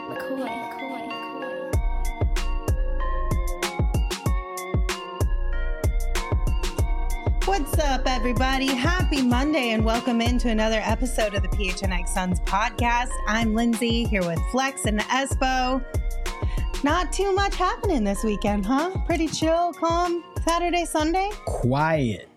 What's up, everybody? Happy Monday and welcome into another episode of the PHNX Suns podcast. I'm Lindsay here with Flex and Espo. Not too much happening this weekend, huh? Pretty chill, calm, Saturday, Sunday? Quiet.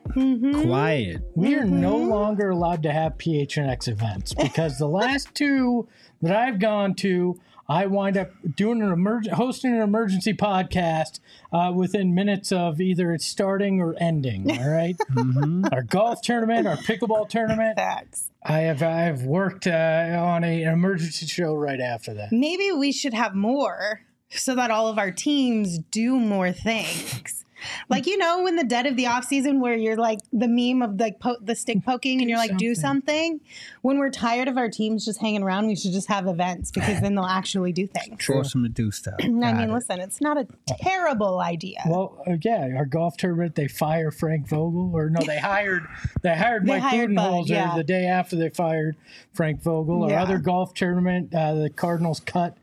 We are no longer allowed to have PHNX events because the last two that I've gone to, I wind up doing hosting an emergency podcast within minutes of either it starting or ending. All right, Our golf tournament, our pickleball tournament. Facts. I have worked on an emergency show right after that. Maybe we should have more so that all of our teams do more things. Like, you know, in the dead of the off season where you're like the meme of like the stick poking and you're like, do something. When we're tired of our teams just hanging around, we should just have events because then they'll actually do things. Force them to do stuff. Listen, it's not a terrible idea. Well, our golf tournament, they fire Frank Vogel, or no, they hired Mike Budenholzer the day after they fired Frank Vogel. Our other golf tournament, the Cardinals cut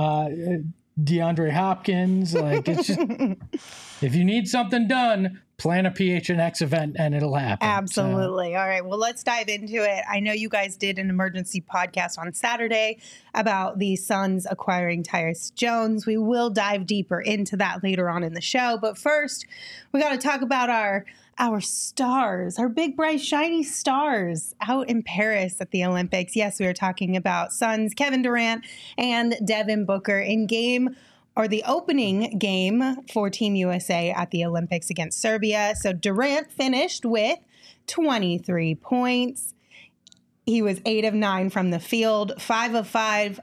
DeAndre Hopkins. Like, it's just, if you need something done, plan a PHNX event and it'll happen. Absolutely. All right. Well, let's dive into it. I know you guys did an emergency podcast on Saturday about the Suns acquiring Tyus Jones. We will dive deeper into that later on in the show. But first, we got to talk about our stars, our big, bright, shiny stars out in Paris at the Olympics. Yes, we are talking about Suns, Kevin Durant and Devin Booker in the opening game for Team USA at the Olympics against Serbia. So Durant finished with 23 points. He was 8 of 9 from the field, 4 of 5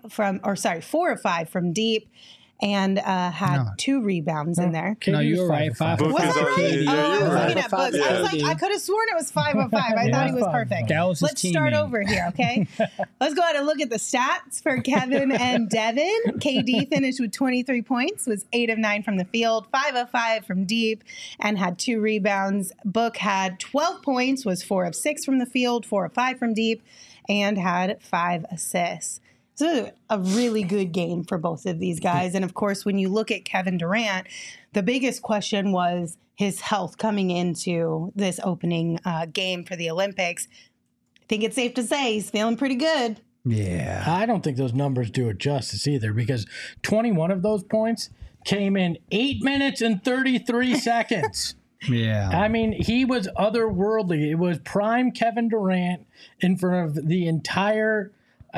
from deep. And had 2 rebounds in there. No, you were right. 5 of 5. Was I right? Yeah, I was right. looking at books. I was like, I could have sworn it was 5 of 5. I thought he was perfect. That was his Let's start teammate. over here, okay? Let's go ahead and look at the stats for Kevin and Devin. KD finished with 23 points, was 8 of 9 from the field, 5 of 5 from deep, and had 2 rebounds. Book had 12 points, was 4 of 6 from the field, 4 of 5 from deep, and had 5 assists. So a really good game for both of these guys. And of course, when you look at Kevin Durant, the biggest question was his health coming into this opening game for the Olympics. I think it's safe to say he's feeling pretty good. Yeah. I don't think those numbers do it justice either, because 21 of those points came in 8 minutes and 33 seconds. Yeah. I mean, he was otherworldly. It was prime Kevin Durant in front of the entire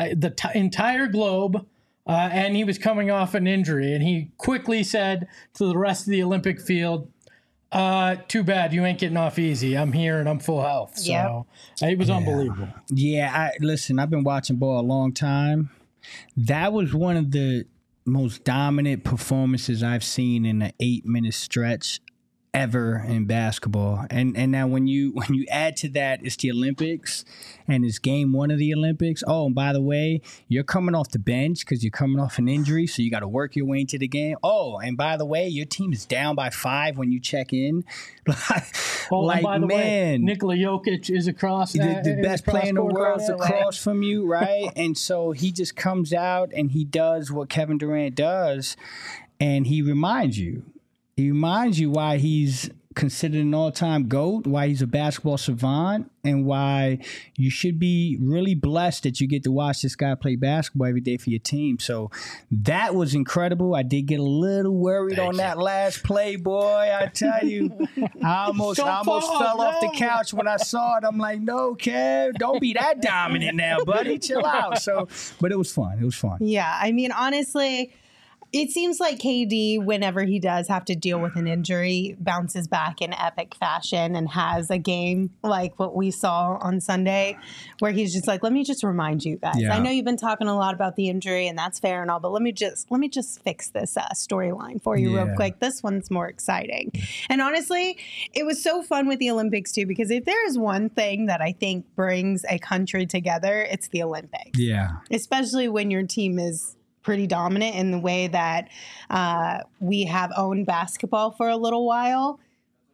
globe, and he was coming off an injury, and he quickly said to the rest of the Olympic field, too bad, you ain't getting off easy. I'm here and I'm full health. So it was unbelievable. Yeah, listen, I've been watching ball a long time. That was one of the most dominant performances I've seen in an 8-minute stretch ever in basketball. And now when you add to that, it's the Olympics and it's game 1 of the Olympics. Oh, and by the way, you're coming off the bench because you're coming off an injury, so you got to work your way into the game. Oh, and by the way, your team is down by 5 when you check in. Like, by the way, Nikola Jokic is across. The best player in the world is across from you, right? And so he just comes out and he does what Kevin Durant does, and he reminds you. He reminds you why he's considered an all-time GOAT, why he's a basketball savant, and why you should be really blessed that you get to watch this guy play basketball every day for your team. So that was incredible. I did get a little worried on that last play, boy. I tell you, I almost fell off the couch when I saw it. I'm like, no, Kev, don't be that dominant now, buddy. Chill out. So, but it was fun. It was fun. Yeah, I mean, honestly, it seems like KD, whenever he does have to deal with an injury, bounces back in epic fashion and has a game like what we saw on Sunday where he's just like, let me just remind you guys. Yeah. I know you've been talking a lot about the injury and that's fair and all, but let me just fix this storyline for you real quick. This one's more exciting. And honestly, it was so fun with the Olympics too, because if there is one thing that I think brings a country together, it's the Olympics. Yeah. Especially when your team is pretty dominant in the way that we have owned basketball for a little while.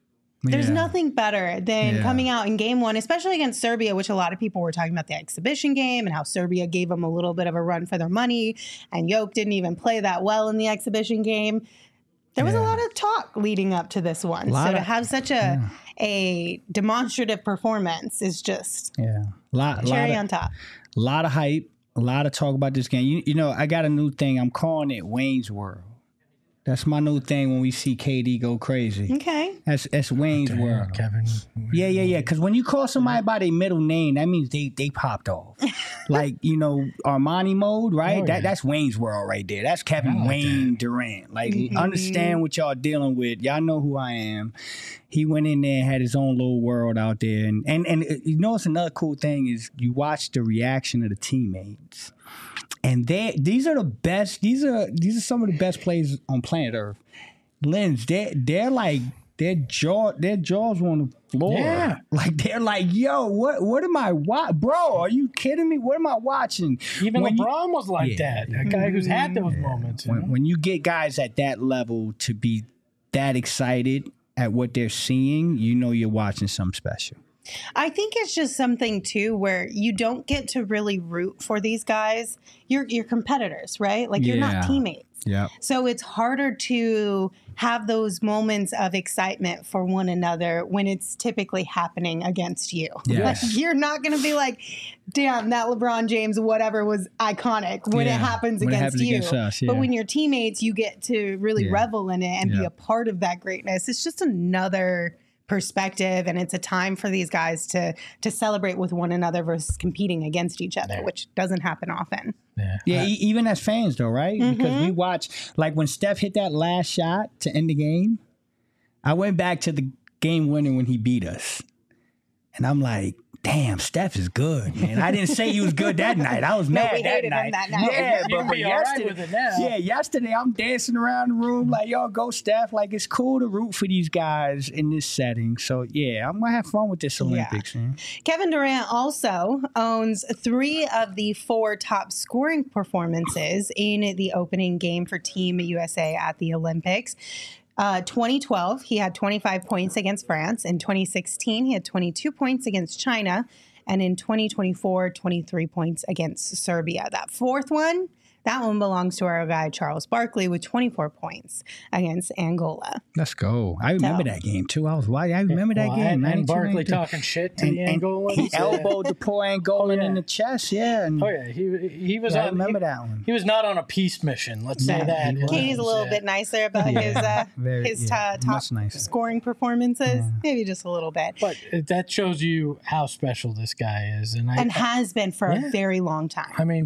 There's nothing better than coming out in game one, especially against Serbia, which a lot of people were talking about the exhibition game and how Serbia gave them a little bit of a run for their money. And Jokic didn't even play that well in the exhibition game. There was a lot of talk leading up to this one. So to have such a demonstrative performance is just cherry on top. A lot of hype, a lot of talk about this game. You know, I got a new thing. I'm calling it Wayne's World. That's my new thing when we see KD go crazy. Okay. That's Wayne's World. Kevin. Yeah. Because when you call somebody by their middle name, that means they popped off. Like, you know, Armani mode, right? That's Wayne's World right there. That's Kevin Wayne Durant. Like, understand what y'all dealing with. Y'all know who I am. He went in there and had his own little world out there. And you know what's another cool thing is you watch the reaction of the teammates. And these are the best. These are some of the best players on planet Earth. Lens, they're like their jaws on the floor. Yeah, like they're like, yo, what am I watching, bro? Are you kidding me? What am I watching? Even LeBron was like that. A guy who's had those moments. When you get guys at that level to be that excited at what they're seeing, you know you're watching something special. I think it's just something too where you don't get to really root for these guys. You're competitors, right? Like you're not teammates. Yeah. So it's harder to have those moments of excitement for one another when it's typically happening against you. Yes. Like you're not going to be like, damn, that LeBron James whatever was iconic when it happens against you. Us, But when you're teammates, you get to really revel in it and be a part of that greatness. It's just another perspective, and it's a time for these guys to celebrate with one another versus competing against each other, which doesn't happen often. Even as fans though, right? Because we watch, like when Steph hit that last shot to end the game, I went back to the game winner when he beat us, and I'm like, damn, Steph is good, man. I didn't say he was good that night. I was mad that night. Yeah, but yesterday I'm dancing around the room like, yo, go Steph. Like, it's cool to root for these guys in this setting. So, yeah, I'm going to have fun with this Olympics, man. Kevin Durant also owns 3 of the 4 top scoring performances in the opening game for Team USA at the Olympics. 2012, he had 25 points against France. In 2016, he had 22 points against China. And in 2024, 23 points against Serbia. That 4th one, that one belongs to our guy, Charles Barkley, with 24 points against Angola. Let's go. I remember that game, too. I remember that game. And Barkley talking shit to the Angolans. He elbowed the poor Angolan in the chest, He was I remember that one. He was not on a peace mission, let's say that. Katie's a little bit nicer about his top scoring performances. Maybe just a little bit. But that shows you how special this guy is. And has been for a very long time. I mean,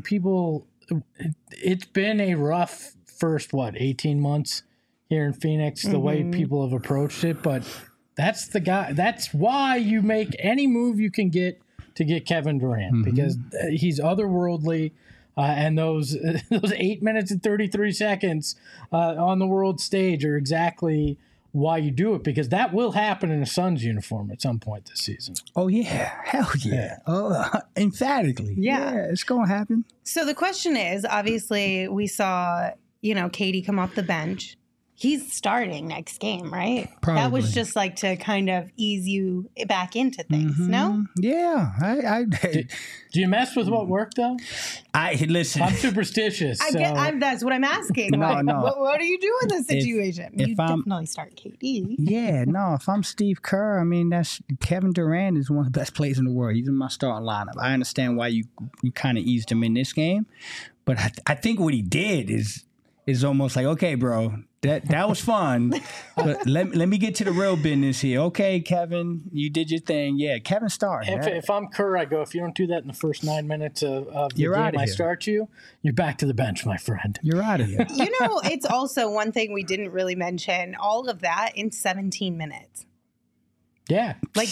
it's been a rough first 18 months here in Phoenix, the way people have approached it, but that's the guy. That's why you make any move you can get to get Kevin Durant, because he's otherworldly, and those 8 minutes and 33 seconds on the world stage are exactly why you do it, because that will happen in a Suns uniform at some point this season. Oh, yeah. Hell yeah. Oh, emphatically. Yeah, it's going to happen. So the question is, obviously, we saw, KD come off the bench. He's starting next game, right? Probably. That was just like to kind of ease you back into things, no? Yeah. Do you mess with what worked, though? Listen. I'm superstitious. That's what I'm asking. No. What do you do in this situation? You definitely start KD. Yeah, no. If I'm Steve Kerr, I mean, that's Kevin Durant is one of the best players in the world. He's in my starting lineup. I understand why you kind of eased him in this game, but I think what he did is almost like, okay, bro, that was fun, but let me get to the real business here. Okay, Kevin, you did your thing. Yeah, Kevin started. If I'm Kerr, I go, if you don't do that in the first 9 minutes of the game I start you're back to the bench, my friend. You're out of here. It's also one thing we didn't really mention, all of that in 17 minutes. Yeah. Like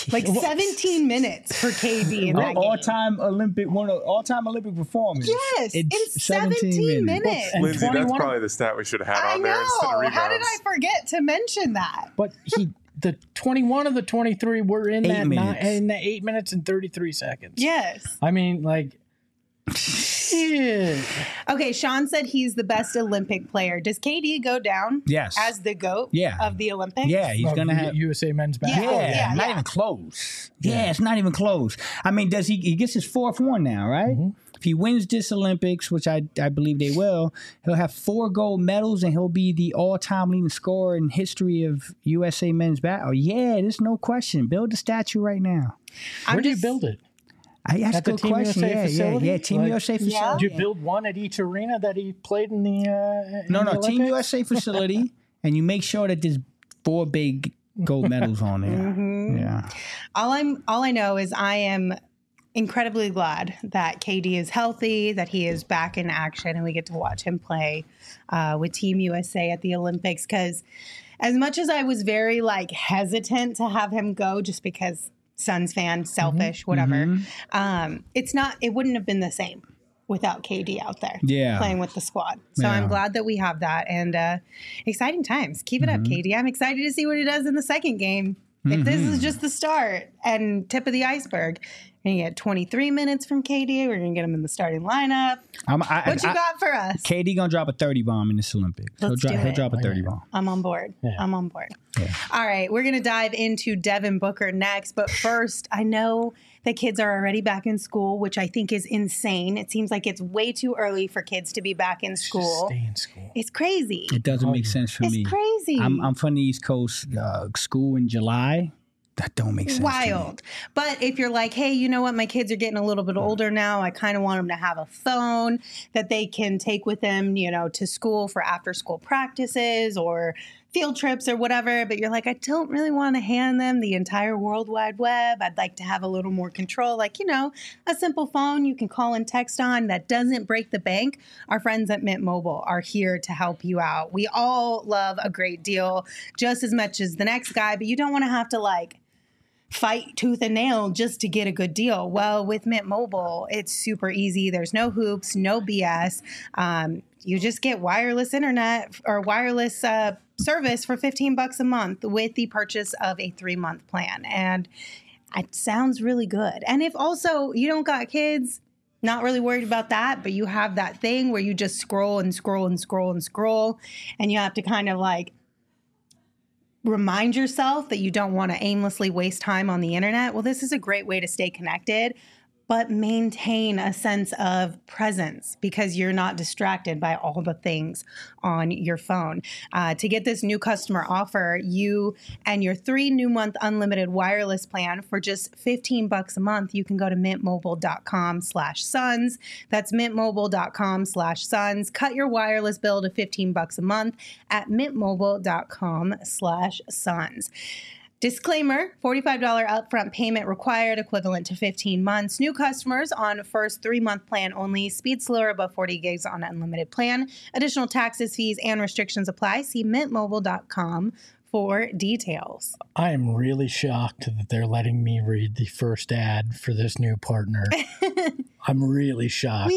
17 minutes for KD in that game. All-time Olympic performance. Yes, in 17 minutes. Lindsay, that's probably the stat we should have had on there instead of rebounds. How did I forget to mention that? But the 21 of the 23 were in the 8 minutes and 33 seconds. Yes. I mean, Shit. Okay, Sean said he's the best Olympic player. Does KD go down? Yes. As the GOAT of the Olympics? Yeah, he's going to have USA men's basketball. Yeah, not even close. Yeah, it's not even close. I mean, does he gets his 4th one now, right? Mm-hmm. If he wins this Olympics, which I believe they will, he'll have 4 gold medals and he'll be the all-time leading scorer in history of USA men's basketball. Yeah, there's no question. Build the statue right now. Where do you build it? That's a good question. Yeah, Team USA facility. Did you build one at each arena that he played in the No, Team USA facility, and you make sure that there's 4 big gold medals on there. Mm-hmm. Yeah. All I know is I am incredibly glad that KD is healthy, that he is back in action, and we get to watch him play with Team USA at the Olympics. Because as much as I was very hesitant to have him go, just because Suns fan, selfish, whatever, it wouldn't have been the same without KD out there playing with the squad. So I'm glad that we have that, and exciting times. Keep it up, KD. I'm excited to see what he does in the second game. If this is just the start and tip of the iceberg, we're going to get 23 minutes from KD. We're going to get him in the starting lineup. What you got for us? KD going to drop a 30 bomb in this Olympics. He'll drop a 30 bomb. I'm on board. Yeah. I'm on board. Yeah. All right. We're going to dive into Devin Booker next. But first, I know that kids are already back in school, which I think is insane. It seems like it's way too early for kids to be back in school. Just stay in school. It's crazy. It doesn't make sense for me. It's crazy. I'm from the East Coast. School in July. That don't make sense. Wild. But if you're like, hey, you know what? My kids are getting a little bit older now. I kind of want them to have a phone that they can take with them, to school for after school practices or field trips or whatever. But you're like, I don't really want to hand them the entire World Wide Web. I'd like to have a little more control. A simple phone you can call and text on that doesn't break the bank. Our friends at Mint Mobile are here to help you out. We all love a great deal just as much as the next guy, but you don't want to have to fight tooth and nail just to get a good deal. Well, with Mint Mobile, it's super easy. There's no hoops, no BS. You just get wireless internet or wireless service for $15 a month with the purchase of a 3-month plan. And it sounds really good. And if also you don't got kids, not really worried about that, but you have that thing where you just scroll and scroll and scroll and scroll, and you have to kind of remind yourself that you don't want to aimlessly waste time on the internet. Well, this is a great way to stay connected, but maintain a sense of presence because you're not distracted by all the things on your phone. To get this new customer offer, you and your 3 new month unlimited wireless plan for just $15 a month, you can go to mintmobile.com/Suns. That's mintmobile.com/Suns. Cut your wireless bill to $15 a month at mintmobile.com/Suns. Disclaimer, $45 upfront payment required, equivalent to 15 months. New customers on first 3-month plan only. Speed slower above 40 gigs on unlimited plan. Additional taxes, fees, and restrictions apply. See mintmobile.com for details. I am really shocked that they're letting me read the first ad for this new partner. I'm really shocked.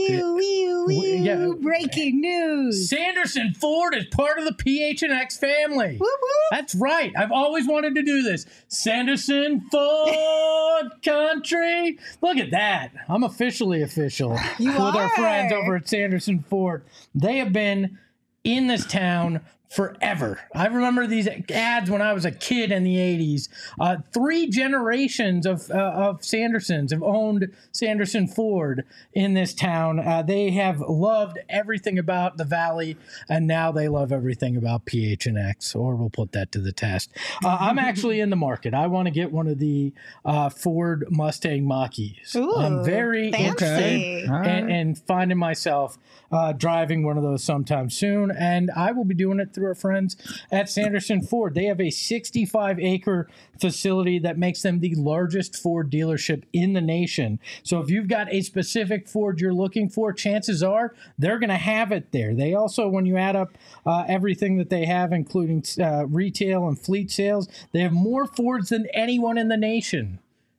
Breaking news. Sanderson Ford is part of the PHNX family. Whoop, whoop. That's right. I've always wanted to do this. Sanderson Ford Country. Look at that. I'm officially official with our friends over at Sanderson Ford. They have been in this town forever. I remember these ads when I was a kid in the 80s. 3 generations of Sandersons have owned Sanderson Ford in this town. They have loved everything about the Valley, and now they love everything about PHNX, or we'll put that to the test. I'm actually in the market. I want to get one of the Ford Mustang Mach-E's. Ooh, I'm very interested in finding myself driving one of those sometime soon, and I will be doing it through our friends at Sanderson Ford. They have a 65-acre facility that makes them the largest Ford dealership in the nation. So if you've got a specific Ford you're looking for, chances are they're going to have it there. They also, when you add up everything that they have, including retail and fleet sales, they have more Fords than anyone in the nation.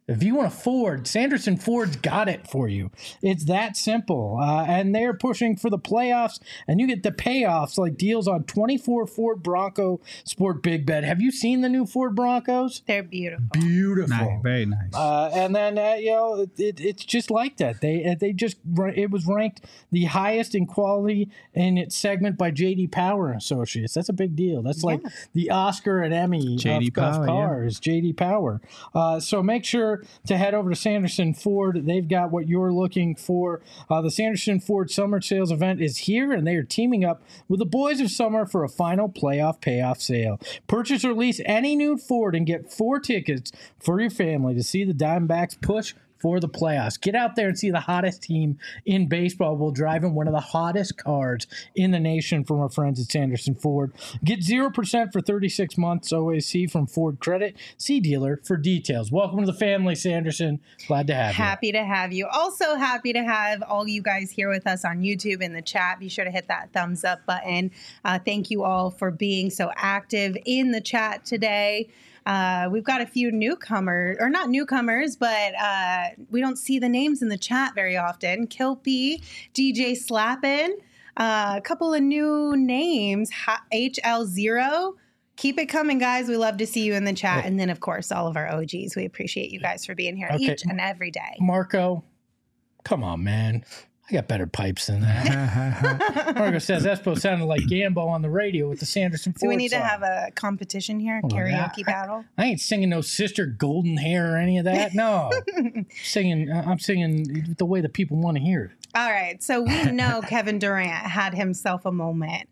If you want a Ford, Sanderson Ford's got it for you. It's that simple. And they're pushing for the playoffs, and you get the payoffs like deals on 24 Ford Bronco Sport Big Bed. Have you seen the new Ford Broncos? They're beautiful. Beautiful. Nice, very nice. And then, it's just like that. It was ranked the highest in quality in its segment by J.D. Power and Associates. That's a big deal. That's like the Oscar and Emmy of cars, J.D. Power. So make sure to head over to Sanderson Ford. They've got what you're looking for. The Sanderson Ford Summer Sales event is here, and they are teaming up with the Boys of Summer for a final playoff payoff sale. Purchase or lease any new Ford and get 4 tickets for your family to see the Diamondbacks push for the playoffs. Get out there and see the hottest team in baseball while driving one of the hottest cars in the nation from our friends at Sanderson Ford. Get 0% for 36 months OAC from Ford Credit. See dealer for details. Welcome to the family, Sanderson. Glad to have you. Happy to have you. Also happy to have all you guys here with us on YouTube in the chat. Be sure to hit that thumbs up button. Thank you all for being so active in the chat today. We've got a few newcomers, or not newcomers, but we don't see the names in the chat very often. Kilpie, DJ Slappin, a couple of new names, HL0. Keep it coming, guys. We love to see you in the chat. And then, of course, all of our OGs. We appreciate you guys for being here each and every day. Marco, come on, man. I got better pipes than that. Margo says Espo sounded like Gambo on the radio with the Sanderson Ford Do we need song. to have a competition here? Karaoke battle? I ain't singing no Sister Golden Hair or any of that. No. I'm singing the way the people want to hear it. All right. So we know Kevin Durant had himself a moment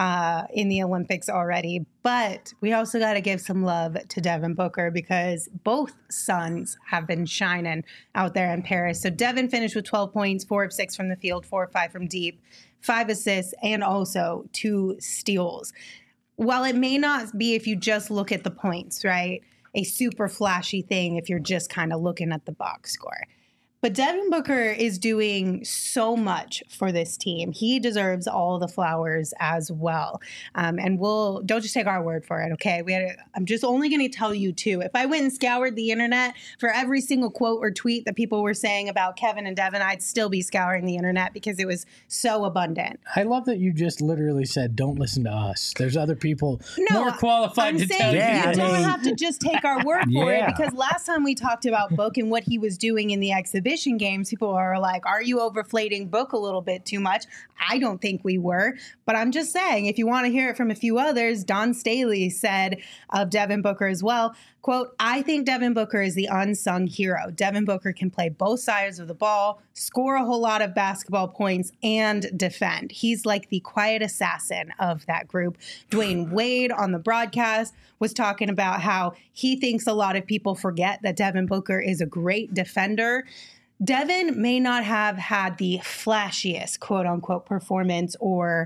in the Olympics already, but we also got to give some love to Devin Booker because both sons have been shining out there in Paris. So Devin finished with 12 points, 4 of 6 from the field, 4 of 5 from deep, 5 assists, and also 2 steals. While it may not be, if you just look at the points, right, a super flashy thing if you're just kind of looking at the box score. But Devin Booker is doing so much for this team. He deserves all the flowers as well. And don't just take our word for it, okay? I'm just only going to tell you 2. If I went and scoured the internet for every single quote or tweet that people were saying about Kevin and Devin, I'd still be scouring the internet because it was so abundant. I love that you just literally said, don't listen to us. There's other people more qualified to tell you. You don't have to just take our word for it, because last time we talked about Book and what he was doing in the exhibition games, people are like, are you overflating Book a little bit too much? I don't think we were, but I'm just saying, if you want to hear it from a few others, Don Staley said of Devin Booker as well, quote, I think Devin Booker is the unsung hero. Devin Booker can play both sides of the ball, score a whole lot of basketball points, and defend. He's like the quiet assassin of that group. Dwayne Wade on the broadcast was talking about how he thinks a lot of people forget that Devin Booker is a great defender. Devin may not have had the flashiest, quote unquote, performance or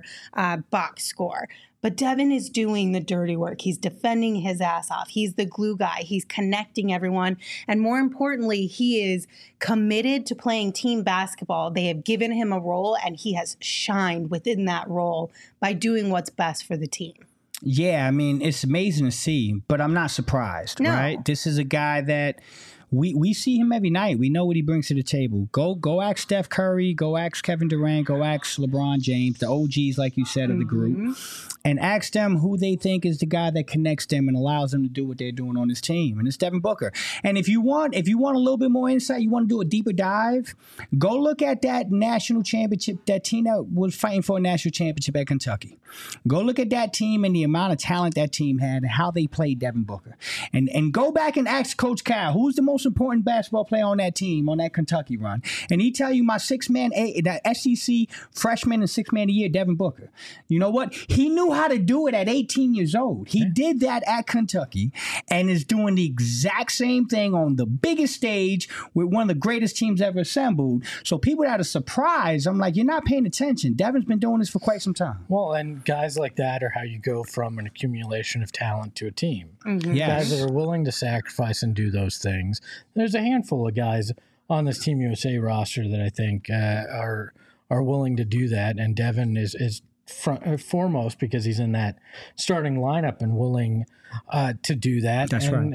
box score, but Devin is doing the dirty work. He's defending his ass off. He's the glue guy. He's connecting everyone. And more importantly, he is committed to playing team basketball. They have given him a role, and he has shined within that role by doing what's best for the team. Yeah, I mean, it's amazing to see, but I'm not surprised, right? This is a guy that we see him every night. We know what he brings to the table. Go ask Steph Curry, go ask Kevin Durant, go ask LeBron James, the OGs, like you said, of the group, and ask them who they think is the guy that connects them and allows them to do what they're doing on this team. And it's Devin Booker. And if you want a little bit more insight, you want to do a deeper dive, go look at that national championship, that team that was fighting for a national championship at Kentucky. Go look at that team and the amount of talent that team had and how they played Devin Booker. And go back and ask Coach Cal, who's the most important basketball player on that team, on that Kentucky run. And he tell you my that SEC freshman and 6th man of the year, Devin Booker. You know what? He knew how to do it at 18 years old. He did that at Kentucky and is doing the exact same thing on the biggest stage with one of the greatest teams ever assembled. So people that are surprised, I'm like, you're not paying attention. Devin's been doing this for quite some time. Well, and guys like that are how you go from an accumulation of talent to a team. Yes. Guys that are willing to sacrifice and do those things. There's a handful of guys on this Team USA roster that I think are willing to do that, and Devin is foremost because he's in that starting lineup and willing to do that. That's right.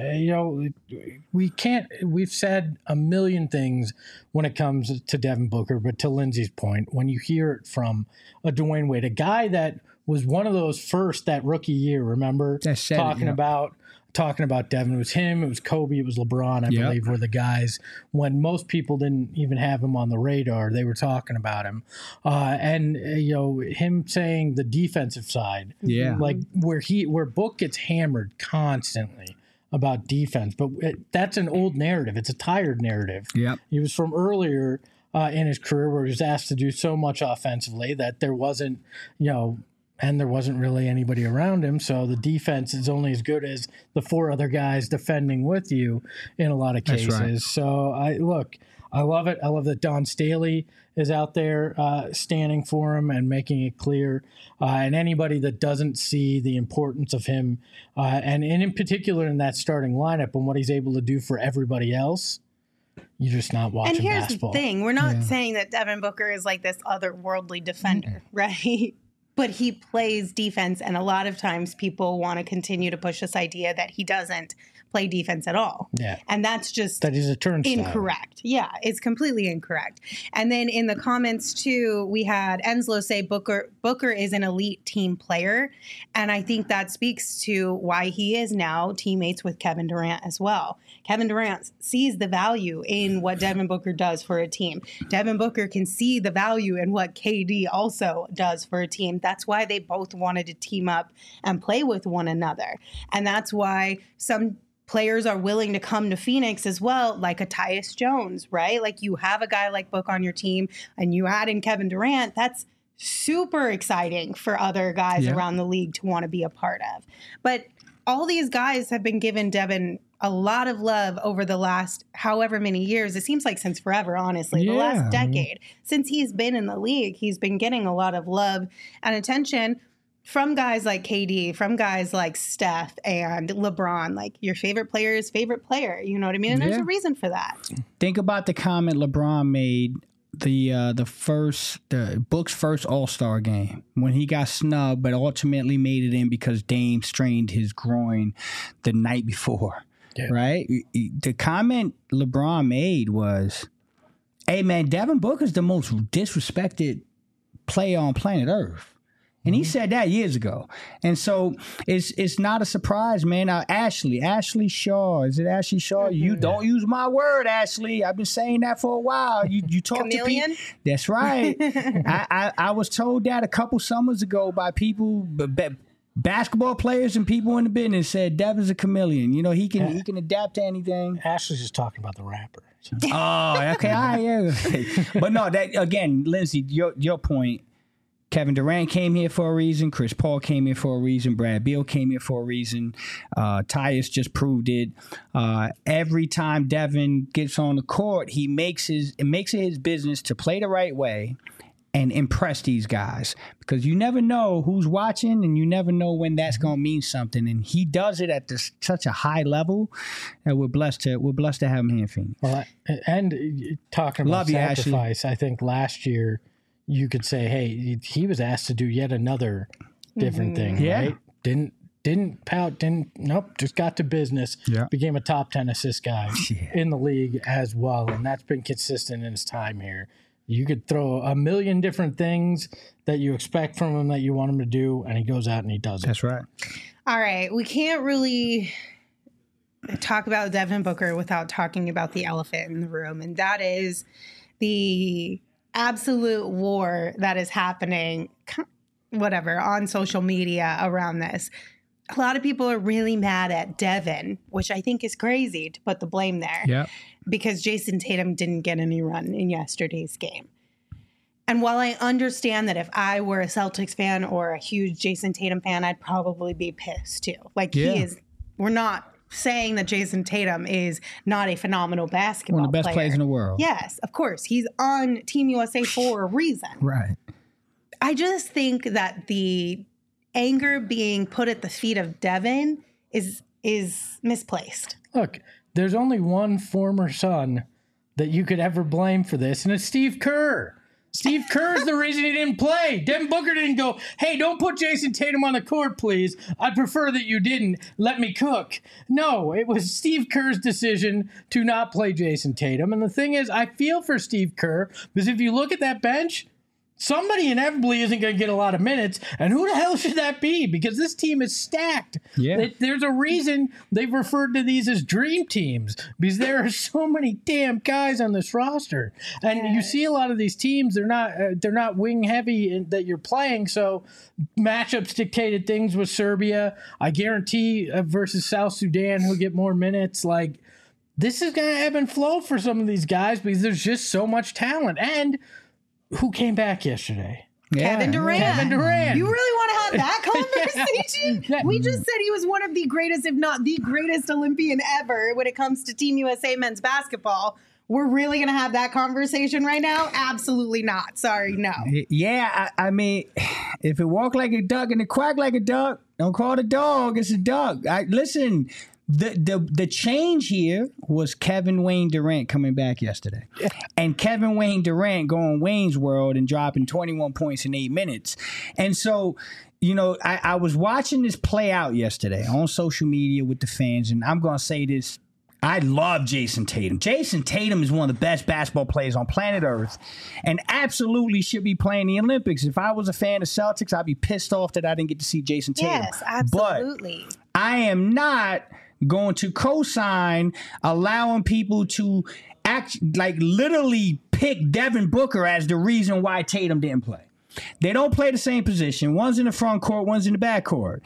We've said a million things when it comes to Devin Booker, but to Lindsay's point, when you hear it from a Dwayne Wade, a guy that was one of those first that rookie year, remember? Talking about Devin. It was him, it was Kobe, it was LeBron, I believe, were the guys when most people didn't even have him on the radar. They were talking about him. And him saying the defensive side. Yeah. Like where Book gets hammered constantly about defense. But that's an old narrative. It's a tired narrative. Yep. He was from earlier in his career where he was asked to do so much offensively that there wasn't, and there wasn't really anybody around him. So the defense is only as good as the 4 other guys defending with you in a lot of cases. That's right. So I love it. I love that Don Staley is out there standing for him and making it clear. And anybody that doesn't see the importance of him, and in particular in that starting lineup and what he's able to do for everybody else, you're just not watching basketball. And here's the thing. We're not saying that Devin Booker is like this otherworldly defender, right? But he plays defense, and a lot of times people want to continue to push this idea that he doesn't play defense at all. Yeah. And that's just that he's a turnstile. Incorrect. Yeah, it's completely incorrect. And then in the comments too, we had Enslow say Booker is an elite team player. And I think that speaks to why he is now teammates with Kevin Durant as well. Kevin Durant sees the value in what Devin Booker does for a team. Devin Booker can see the value in what KD also does for a team. That's why they both wanted to team up and play with one another. And that's why some players are willing to come to Phoenix as well, like a Tyus Jones, right? Like you have a guy like Book on your team and you add in Kevin Durant, that's super exciting for other guys around the league to want to be a part of. But all these guys have been giving Devin a lot of love over the last however many years. It seems like since forever, honestly, the last decade. Since he's been in the league, he's been getting a lot of love and attention from guys like KD, from guys like Steph and LeBron. Like your favorite player's favorite player. You know what I mean? And there's a reason for that. Think about the comment LeBron made the Book's first All-Star game when he got snubbed, but ultimately made it in because Dame strained his groin the night before. Yeah. Right? The comment LeBron made was, "Hey man, Devin Booker's the most disrespected player on planet Earth." And he said that years ago. And so it's not a surprise, man. Now, Ashley Shaw. Is it Ashley Shaw? You don't use my word, Ashley. I've been saying that for a while. You talk Chameleon? to people. That's right. I was told that a couple summers ago by people, basketball players and people in the business said Devin's a chameleon. You know, he can adapt to anything. Ashley's just talking about the rapper. So. Oh, okay. All right, yeah. But no, that again, Lindsay, your point. Kevin Durant came here for a reason. Chris Paul came here for a reason. Brad Beal came here for a reason. Tyus just proved it. Every time Devin gets on the court, it makes it his business to play the right way and impress these guys, because you never know who's watching and you never know when that's going to mean something. And he does it at such a high level that we're blessed to have him here in Phoenix. Well, and talking about sacrifice, I think last year you could say, hey, he was asked to do yet another different thing, right? Didn't pout, just got to business. Yeah. Became a top 10 assist guy in the league as well, and that's been consistent in his time here. You could throw a million different things that you expect from him that you want him to do, and he goes out and he does it. That's right. All right. We can't really talk about Devin Booker without talking about the elephant in the room, and that is the absolute war that is happening, on social media around this. A lot of people are really mad at Devin, which I think is crazy to put the blame there. Yeah. Because Jason Tatum didn't get any run in yesterday's game. And while I understand that if I were a Celtics fan or a huge Jason Tatum fan, I'd probably be pissed too. We're not saying that Jason Tatum is not a phenomenal basketball player. One of the best players in the world. Yes, of course. He's on Team USA for a reason. Right. I just think that the anger being put at the feet of Devin is misplaced. Look, there's only one former Sun that you could ever blame for this, and it's Steve Kerr. Steve Kerr's the reason he didn't play. Devin Booker didn't go, hey, don't put Jason Tatum on the court, please. I'd prefer that you didn't. Let me cook. No, it was Steve Kerr's decision to not play Jason Tatum. And the thing is, I feel for Steve Kerr because if you look at that bench, somebody inevitably isn't going to get a lot of minutes. And who the hell should that be? Because this team is stacked. Yeah. There's a reason they've referred to these as dream teams because there are so many damn guys on this roster. And you see a lot of these teams, they're not wing heavy that you're playing. So matchups dictated things with Serbia. I guarantee versus South Sudan, who'll get more minutes. Like, this is going to ebb and flow for some of these guys because there's just so much talent. And who came back yesterday? Kevin Durant. You really want to have that conversation? Yeah. We just said he was one of the greatest, if not the greatest Olympian ever when it comes to Team USA men's basketball. We're really going to have that conversation right now? Absolutely not. Sorry, no. Yeah, I mean, if it walk like a duck and it quack like a duck, don't call it a dog. It's a duck. Listen. The change here was Kevin Wayne Durant coming back yesterday. And Kevin Wayne Durant going Wayne's World and dropping 21 points in 8 minutes. And so, you know, I was watching this play out yesterday on social media with the fans, and I'm going to say this. I love Jason Tatum. Jason Tatum is one of the best basketball players on planet Earth and absolutely should be playing the Olympics. If I was a fan of Celtics, I'd be pissed off that I didn't get to see Jason Tatum. Yes, absolutely. But I am not going to co-sign allowing people to act like literally pick Devin Booker as the reason why Tatum didn't play. They don't play the same position. One's in the front court, one's in the back court.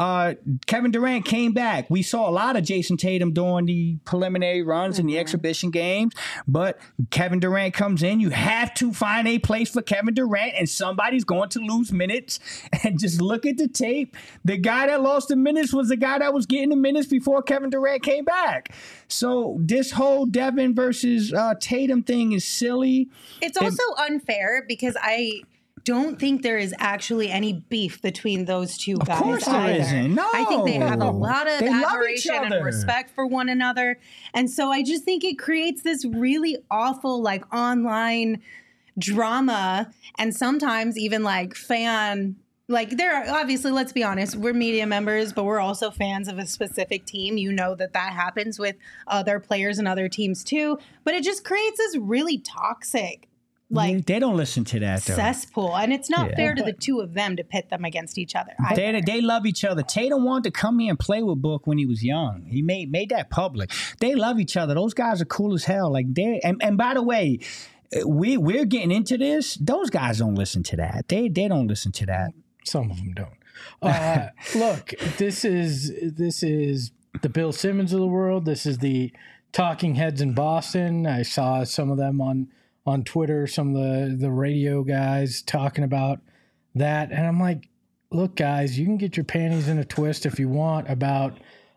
Kevin Durant came back. We saw a lot of Jason Tatum during the preliminary runs and the exhibition games, but Kevin Durant comes in. You have to find a place for Kevin Durant, and somebody's going to lose minutes. And just look at the tape. The guy that lost the minutes was the guy that was getting the minutes before Kevin Durant came back. So this whole Devin versus Tatum thing is silly. It's also unfair because I don't think there is actually any beef between those two guys. Of course there isn't. No. I think they have a lot of admiration and respect for one another. And so I just think it creates this really awful like online drama and sometimes even like fan like there are obviously, let's be honest, we're media members, but we're also fans of a specific team. You know that happens with other players and other teams too. But it just creates this really toxic like they don't listen to that though. Cesspool, and it's not fair to the two of them to pit them against each other. They love each other. Tatum wanted to come here and play with Book when he was young. He made that public. They love each other. Those guys are cool as hell. Like and by the way, we're getting into this. Those guys don't listen to that. They don't listen to that. Some of them don't. Look, this is the Bill Simmons of the world. This is the talking heads in Boston. I saw some of them on Twitter, some of the radio guys talking about that. And I'm like, look, guys, you can get your panties in a twist if you want about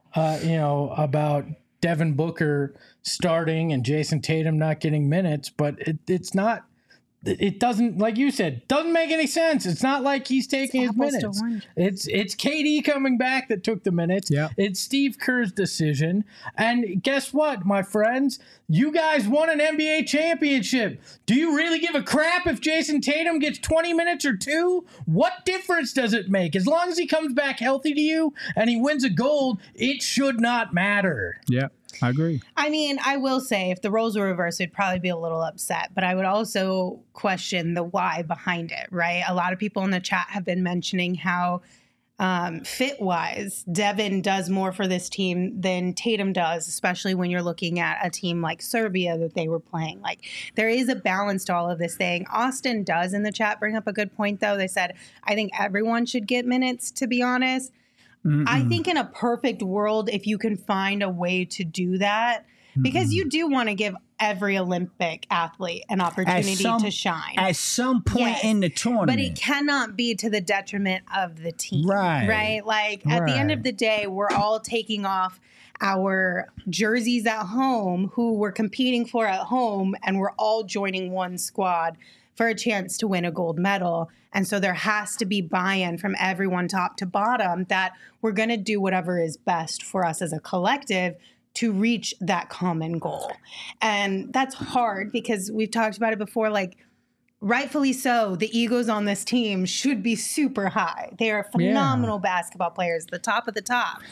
Devin Booker starting and Jason Tatum not getting minutes, but it's not. It doesn't, like you said, doesn't make any sense. It's not like he's taking his minutes. It's KD coming back that took the minutes. Yeah. It's Steve Kerr's decision. And guess what, my friends? You guys won an NBA championship. Do you really give a crap if Jason Tatum gets 20 minutes or 2? What difference does it make? As long as he comes back healthy to you and he wins a gold, it should not matter. Yeah. I agree. I mean, I will say if the roles were reversed, we'd probably be a little upset, but I would also question the why behind it, right? A lot of people in the chat have been mentioning how fit-wise, Devin does more for this team than Tatum does, especially when you're looking at a team like Serbia that they were playing. Like, there is a balance to all of this thing. Austin does in the chat bring up a good point, though. They said, I think everyone should get minutes, to be honest. I think in a perfect world, if you can find a way to do that, because you do want to give every Olympic athlete an opportunity to shine. At some point in the tournament. But it cannot be to the detriment of the team. Right. Like, at the end of the day, we're all taking off our jerseys at home, who we're competing for at home, and we're all joining one squad for a chance to win a gold medal. And so there has to be buy-in from everyone top to bottom that we're going to do whatever is best for us as a collective to reach that common goal. And that's hard because we've talked about it before. Like, rightfully so, the egos on this team should be super high. They are phenomenal basketball players, the top of the top.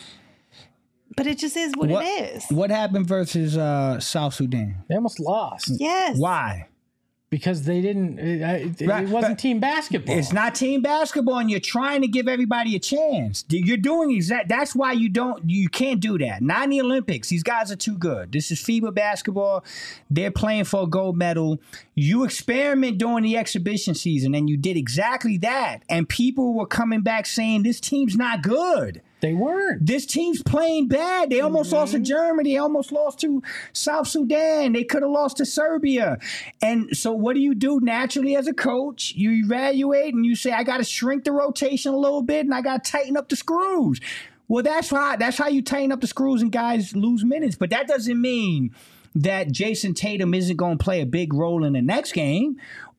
But it just is what it is. What happened versus South Sudan? They almost lost. Yes. Why? Because they didn't. It wasn't team basketball. It's not team basketball, and you're trying to give everybody a chance. You're doing that's why you can't do that. Not in the Olympics. These guys are too good. This is FIBA basketball. They're playing for a gold medal. You experiment during the exhibition season, and you did exactly that. And people were coming back saying this team's not good. They weren't. This team's playing bad. They almost lost to Germany. They almost lost to South Sudan. They could have lost to Serbia. And so what do you do naturally as a coach? You evaluate and you say, I got to shrink the rotation a little bit and I got to tighten up the screws. Well, that's how you tighten up the screws and guys lose minutes. But that doesn't mean that Jason Tatum isn't going to play a big role in the next game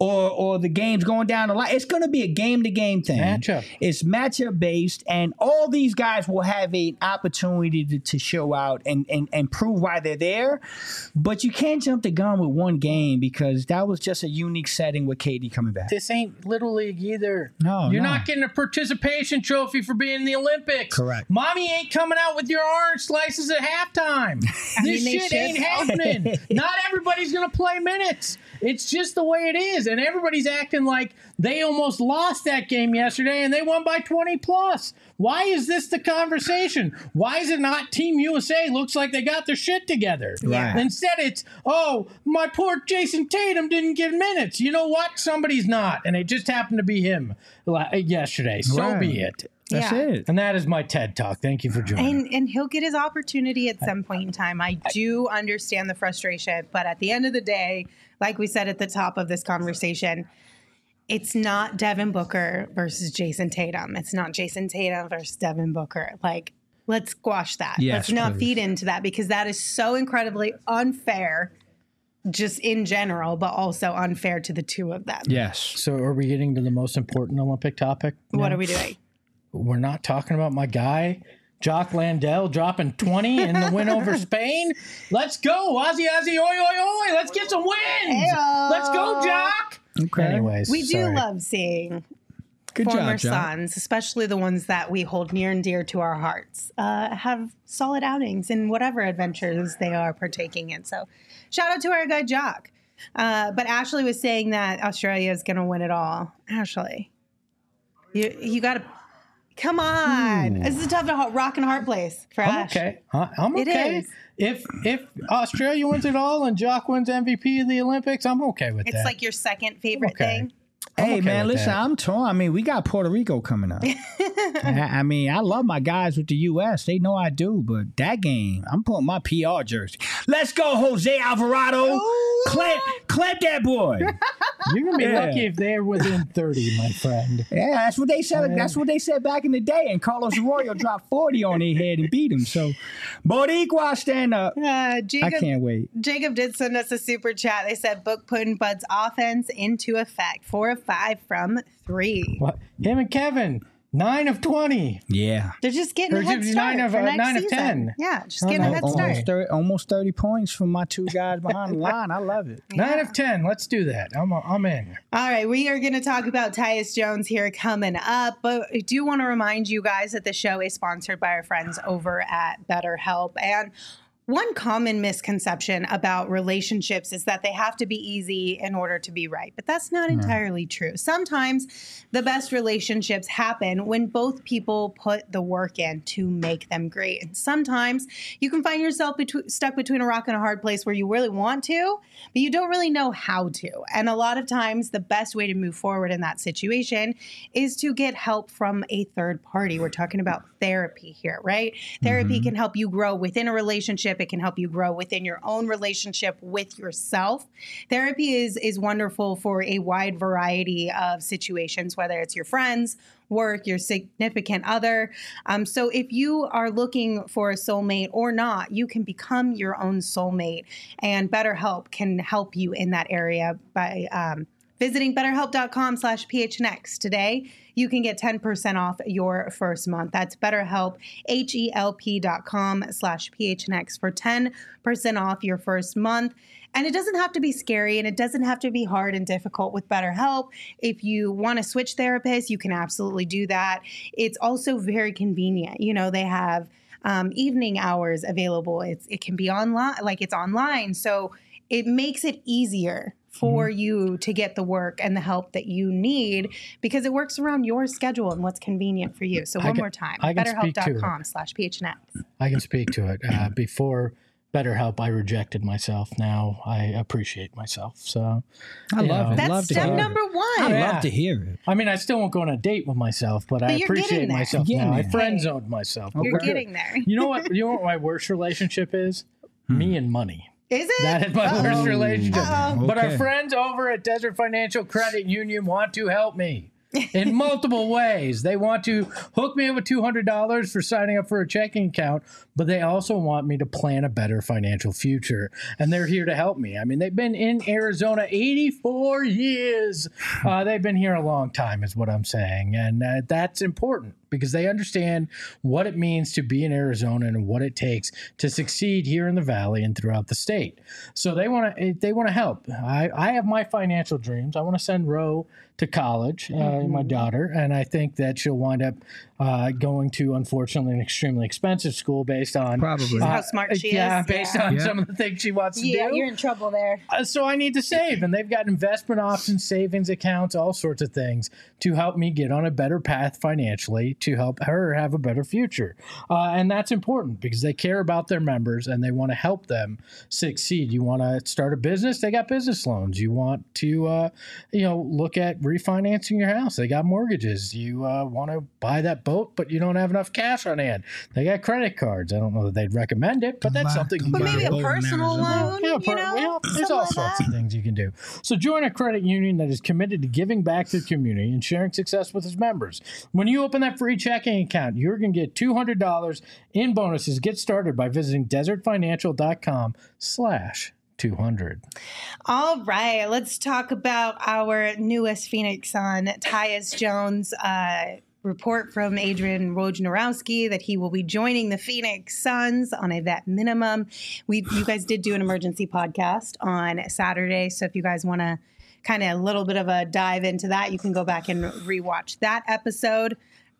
or the game's going down the line. It's going to be a game-to-game thing. Matchup. It's matchup-based, and all these guys will have an opportunity to show out and prove why they're there. But you can't jump the gun with one game because that was just a unique setting with KD coming back. This ain't Little League either. No, You're not getting a participation trophy for being in the Olympics. Correct. Mommy ain't coming out with your orange slices at halftime. This shit ain't happening. Not everybody's going to play minutes. It's just the way it is. And everybody's acting like they almost lost that game yesterday and they won by 20 plus. Why is this the conversation? Why is it not Team USA looks like they got their shit together? Right. Instead, it's, oh, my poor Jason Tatum didn't get minutes. You know what? Somebody's not. And it just happened to be him yesterday. So be it. That's it. And that is my TED Talk. Thank you for joining. And he'll get his opportunity at some point in time. I do understand the frustration, but at the end of the day, like we said at the top of this conversation, it's not Devin Booker versus Jason Tatum. It's not Jason Tatum versus Devin Booker. Like, let's squash that. Yes, let's not feed into that because that is so incredibly unfair just in general, but also unfair to the two of them. Yes. So are we getting to the most important Olympic topic now? What are we doing? We're not talking about my guy, Jock Landell, dropping 20 in the win over Spain. Let's go. Ozzy, oi, oi, oi. Let's get some wins. Hey-o. Let's go, Jock. Okay. Anyways, We do love seeing former sons, especially the ones that we hold near and dear to our hearts, have solid outings in whatever adventures they are partaking in. So shout out to our guy, Jock. But Ashley was saying that Australia is going to win it all. Ashley, you got to... Come on. This is a tough rock and hard place for Ash. Okay. I'm okay. It is. If Australia wins it all and Jock wins MVP of the Olympics, I'm okay with that. It's like your second favorite thing. Hey, man, listen, I'm torn. I mean, we got Puerto Rico coming up. I mean, I love my guys with the U.S. They know I do, but that game, I'm putting my PR jersey. Let's go, Jose Alvarado. Clamp that boy. You're going to be lucky if they're within 30, my friend. Yeah, that's what they said. That's what they said back in the day. And Carlos Arroyo dropped 40 on their head and beat him. So, Boricua, stand up. I can't wait. Jacob did send us a super chat. They said, Book putting Bud's offense into effect. 4 of 5 from 3. What? Him and Kevin, 9 of 20. Yeah. They're just getting a head start 9 of 10. Yeah, just getting a head start. Almost 30 points from my two guys behind the line. I love it. Yeah. 9 of 10. Let's do that. I'm in. All right, we are going to talk about Tyus Jones here coming up, but I do want to remind you guys that the show is sponsored by our friends over at BetterHelp. And one common misconception about relationships is that they have to be easy in order to be right. But that's not entirely true. Sometimes the best relationships happen when both people put the work in to make them great. And sometimes you can find yourself stuck between a rock and a hard place where you really want to, but you don't really know how to. And a lot of times the best way to move forward in that situation is to get help from a third party. We're talking about therapy here, right? Therapy can help you grow within a relationship. It can help you grow within your own relationship with yourself. Therapy is wonderful for a wide variety of situations, whether it's your friends, work, your significant other. So if you are looking for a soulmate or not, you can become your own soulmate. And BetterHelp can help you in that area by visiting betterhelp.com/PHNX. Today, you can get 10% off your first month. That's BetterHelp, HELP.com/PHNX for 10% off your first month. And it doesn't have to be scary, and it doesn't have to be hard and difficult with BetterHelp. If you want to switch therapists, you can absolutely do that. It's also very convenient. You know, they have evening hours available. It can be online, like it's online. So it makes it easier for you to get the work and the help that you need because it works around your schedule and what's convenient for you. So one more time, betterhelp.com/PHNX. I can speak to it. Before BetterHelp, I rejected myself. Now I appreciate myself. So I love it. That's step number one. I love to hear it. I mean, I still won't go on a date with myself, but I appreciate myself now. I friend zoned myself. You're getting there. You know what? You know what my worst relationship is? Me and money. Is it? That is my worst relationship. But our friends over at Desert Financial Credit Union want to help me in multiple ways. They want to hook me up with $200 for signing up for a checking account, but they also want me to plan a better financial future. And they're here to help me. I mean, they've been in Arizona 84 years. They've been here a long time is what I'm saying. And that's important because they understand what it means to be in Arizona and what it takes to succeed here in the Valley and throughout the state. So they want to help. I have my financial dreams. I want to send Ro to college, my daughter, and I think that she'll wind up going to, unfortunately, an extremely expensive school based on probably how smart she is. Yeah, based on some of the things she wants to do. Yeah, you're in trouble there. So I need to save, and they've got investment options, savings accounts, all sorts of things to help me get on a better path financially to help her have a better future. And that's important because they care about their members and they want to help them succeed. You want to start a business, they got business loans. You want to, look at refinancing your house. They got mortgages. You want to buy that boat, but you don't have enough cash on hand. They got credit cards. I don't know that they'd recommend it, but that's something you can do. But maybe a personal loan, there's all sorts of things you can do. So join a credit union that is committed to giving back to the community and sharing success with its members. When you open that free checking account, you're going to get $200 in bonuses. Get started by visiting desertfinancial.com/200. All right, let's talk about our newest Phoenix Sun, Tyus Jones. Report from Adrian Wojnarowski that he will be joining the Phoenix Suns on a vet minimum. You guys did do an emergency podcast on Saturday, so if you guys want to kind of a little bit of a dive into that, you can go back and rewatch that episode.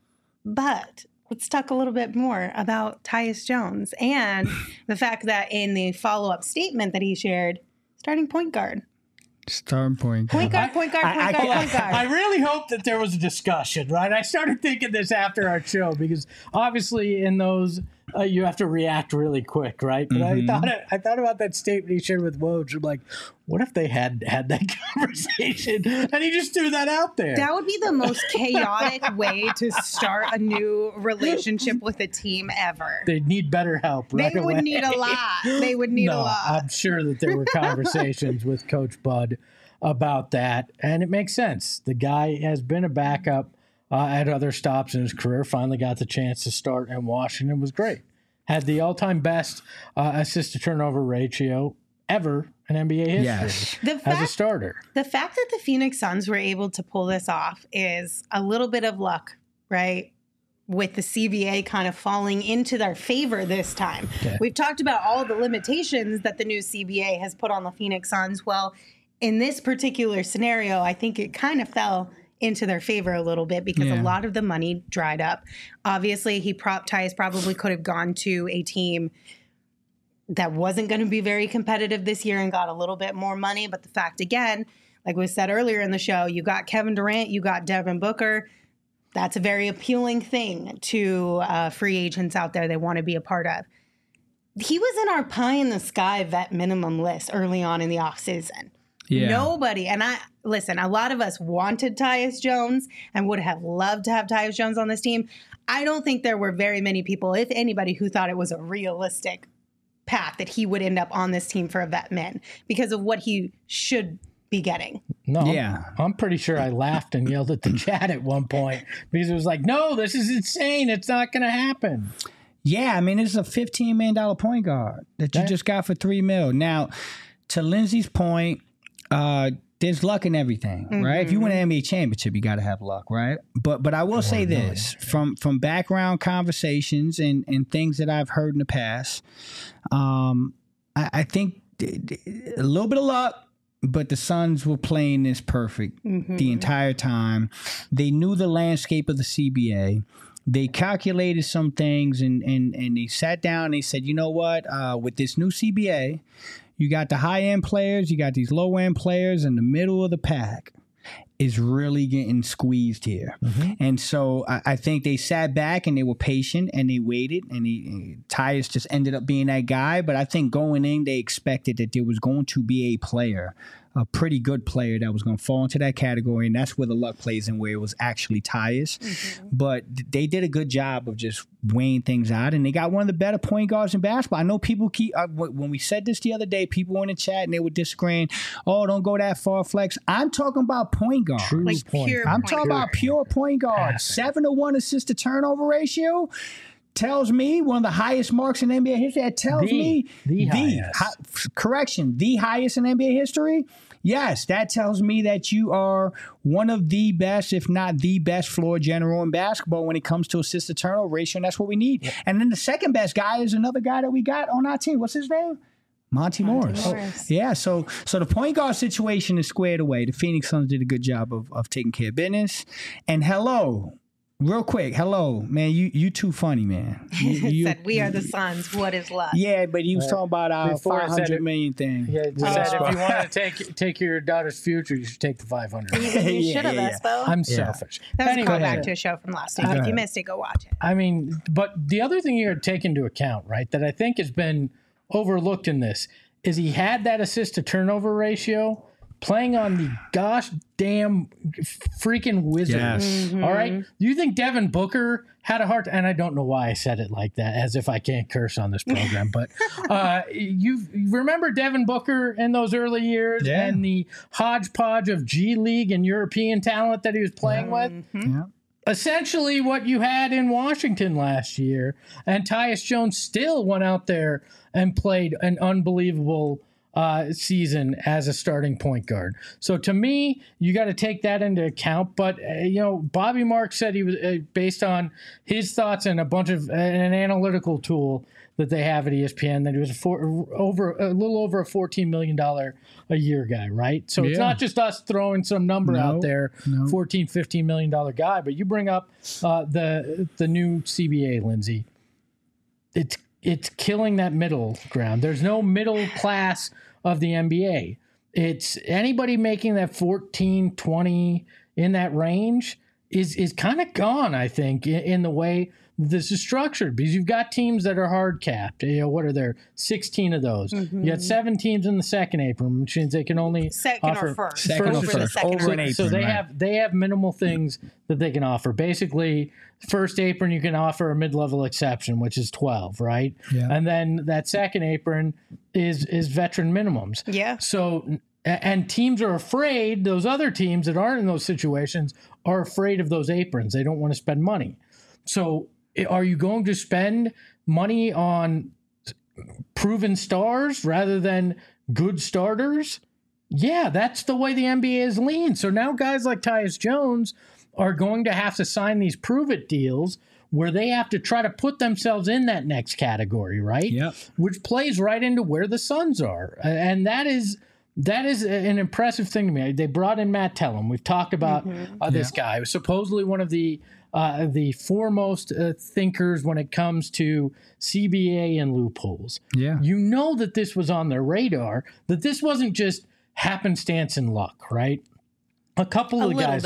But let's talk a little bit more about Tyus Jones and the fact that in the follow-up statement that he shared, starting point guard. Starting point guard. Point guard. I really hope that there was a discussion, right? I started thinking this after our show because obviously in those you have to react really quick, right? But I thought about that statement he shared with Woj. I'm like, what if they had that conversation and he just threw that out there? That would be the most chaotic way to start a new relationship with a team ever. They'd need better help right away. They would need a lot. They would need a lot. I'm sure that there were conversations with Coach Bud about that, and it makes sense. The guy has been a backup at other stops in his career, finally got the chance to start in Washington. It was great. Had the all-time best assist-to-turnover ratio ever in NBA history as a starter. The fact that the Phoenix Suns were able to pull this off is a little bit of luck, right? With the CBA kind of falling into their favor this time. Okay. We've talked about all the limitations that the new CBA has put on the Phoenix Suns. Well, in this particular scenario, I think it kind of fell into their favor a little bit because a lot of the money dried up. Obviously, Tyus probably could have gone to a team that wasn't going to be very competitive this year and got a little bit more money. But the fact, again, like we said earlier in the show, you got Kevin Durant, you got Devin Booker. That's a very appealing thing to free agents out there they want to be a part of. He was in our pie-in-the-sky vet minimum list early on in the offseason. Yeah. Nobody, and a lot of us wanted Tyus Jones and would have loved to have Tyus Jones on this team. I don't think there were very many people, if anybody, who thought it was a realistic path that he would end up on this team for a vet min because of what he should be getting. No, I'm pretty sure I laughed and yelled at the chat at one point because it was like, no, this is insane. It's not going to happen. Yeah, I mean, it's a $15 million point guard that you just got for $3 million. Now, to Lindsay's point, there's luck in everything, right? If you win an NBA championship, you got to have luck, right? But I will say this from background conversations and things that I've heard in the past, I think a little bit of luck, but the Suns were playing this perfect the entire time. They knew the landscape of the CBA. They calculated some things and they sat down and they said, you know what, with this new CBA, you got the high-end players, you got these low-end players, and the middle of the pack is really getting squeezed here. And so I think they sat back and they were patient and they waited, and Tyus just ended up being that guy. But I think going in, they expected that there was going to be a player, a pretty good player that was going to fall into that category, and that's where the luck plays in, where it was actually Tyus. But they did a good job of just weighing things out, and they got one of the better point guards in basketball. I know people keep when we said this the other day, people were in the chat and they were disagreeing. Oh, don't go that far, Flex. I'm talking about point guard. Like pure I'm talking about pure point guard. 7-to-1 assist to turnover ratio. Tells me one of the highest marks in NBA history. That tells me the highest in NBA history. Yes, that tells me that you are one of the best, if not the best, floor general in basketball when it comes to assist to turnover ratio, and that's what we need. And then the second best guy is another guy that we got on our team. What's his name? Monty Morris. Yeah, so the point guard situation is squared away. The Phoenix Suns did a good job of taking care of business. And real quick, man, you too funny, man. You said, we are the Suns. What is left? Yeah, but he was talking about our $500 million thing. Yeah, said if you want to take your daughter's future, you should take the $500 million. You should have, Espo. I'm selfish. That was a callback to a show from last week. If you missed it, go watch it. I mean, but the other thing you got to take into account, right, that I think has been overlooked in this is he had that assist to turnover ratio playing on the gosh damn freaking Wizards. All right. Do you think Devin Booker had a heart? And I don't know why I said it like that, as if I can't curse on this program. But you remember Devin Booker in those early years and the hodgepodge of G League and European talent that he was playing with? Essentially what you had in Washington last year. And Tyus Jones still went out there and played an unbelievable season as a starting point guard. So to me, you got to take that into account. But, Bobby Marks said he was based on his thoughts and a bunch of an analytical tool that they have at ESPN, that he was a little over a $14 million a year guy, right? So it's not just us throwing some number out there, $14, $15 million guy, but you bring up the new CBA, Lindsay. It's killing that middle ground. There's no middle class of the NBA. It's anybody making that 14, 20 in that range is kind of gone, I think, in the way this is structured, because you've got teams that are hard capped. What are there? 16 of those. You got 7 teams in the second apron, which means they can only offer first over an apron. So they have minimal things that they can offer. Basically, first apron you can offer a mid-level exception, which is 12, right? Yeah. And then that second apron is veteran minimums. Yeah. So and teams are afraid. Those other teams that aren't in those situations are afraid of those aprons. They don't want to spend money. So are you going to spend money on proven stars rather than good starters? Yeah, that's the way the NBA is lean. So now guys like Tyus Jones are going to have to sign these prove-it deals where they have to try to put themselves in that next category, right? Yep. Which plays right into where the Suns are. And that is an impressive thing to me. They brought in Matt Tellem. We've talked about this guy. He was supposedly one of the foremost thinkers when it comes to CBA and loopholes. Yeah. You know that this was on their radar, that this wasn't just happenstance and luck, right? A couple of guys.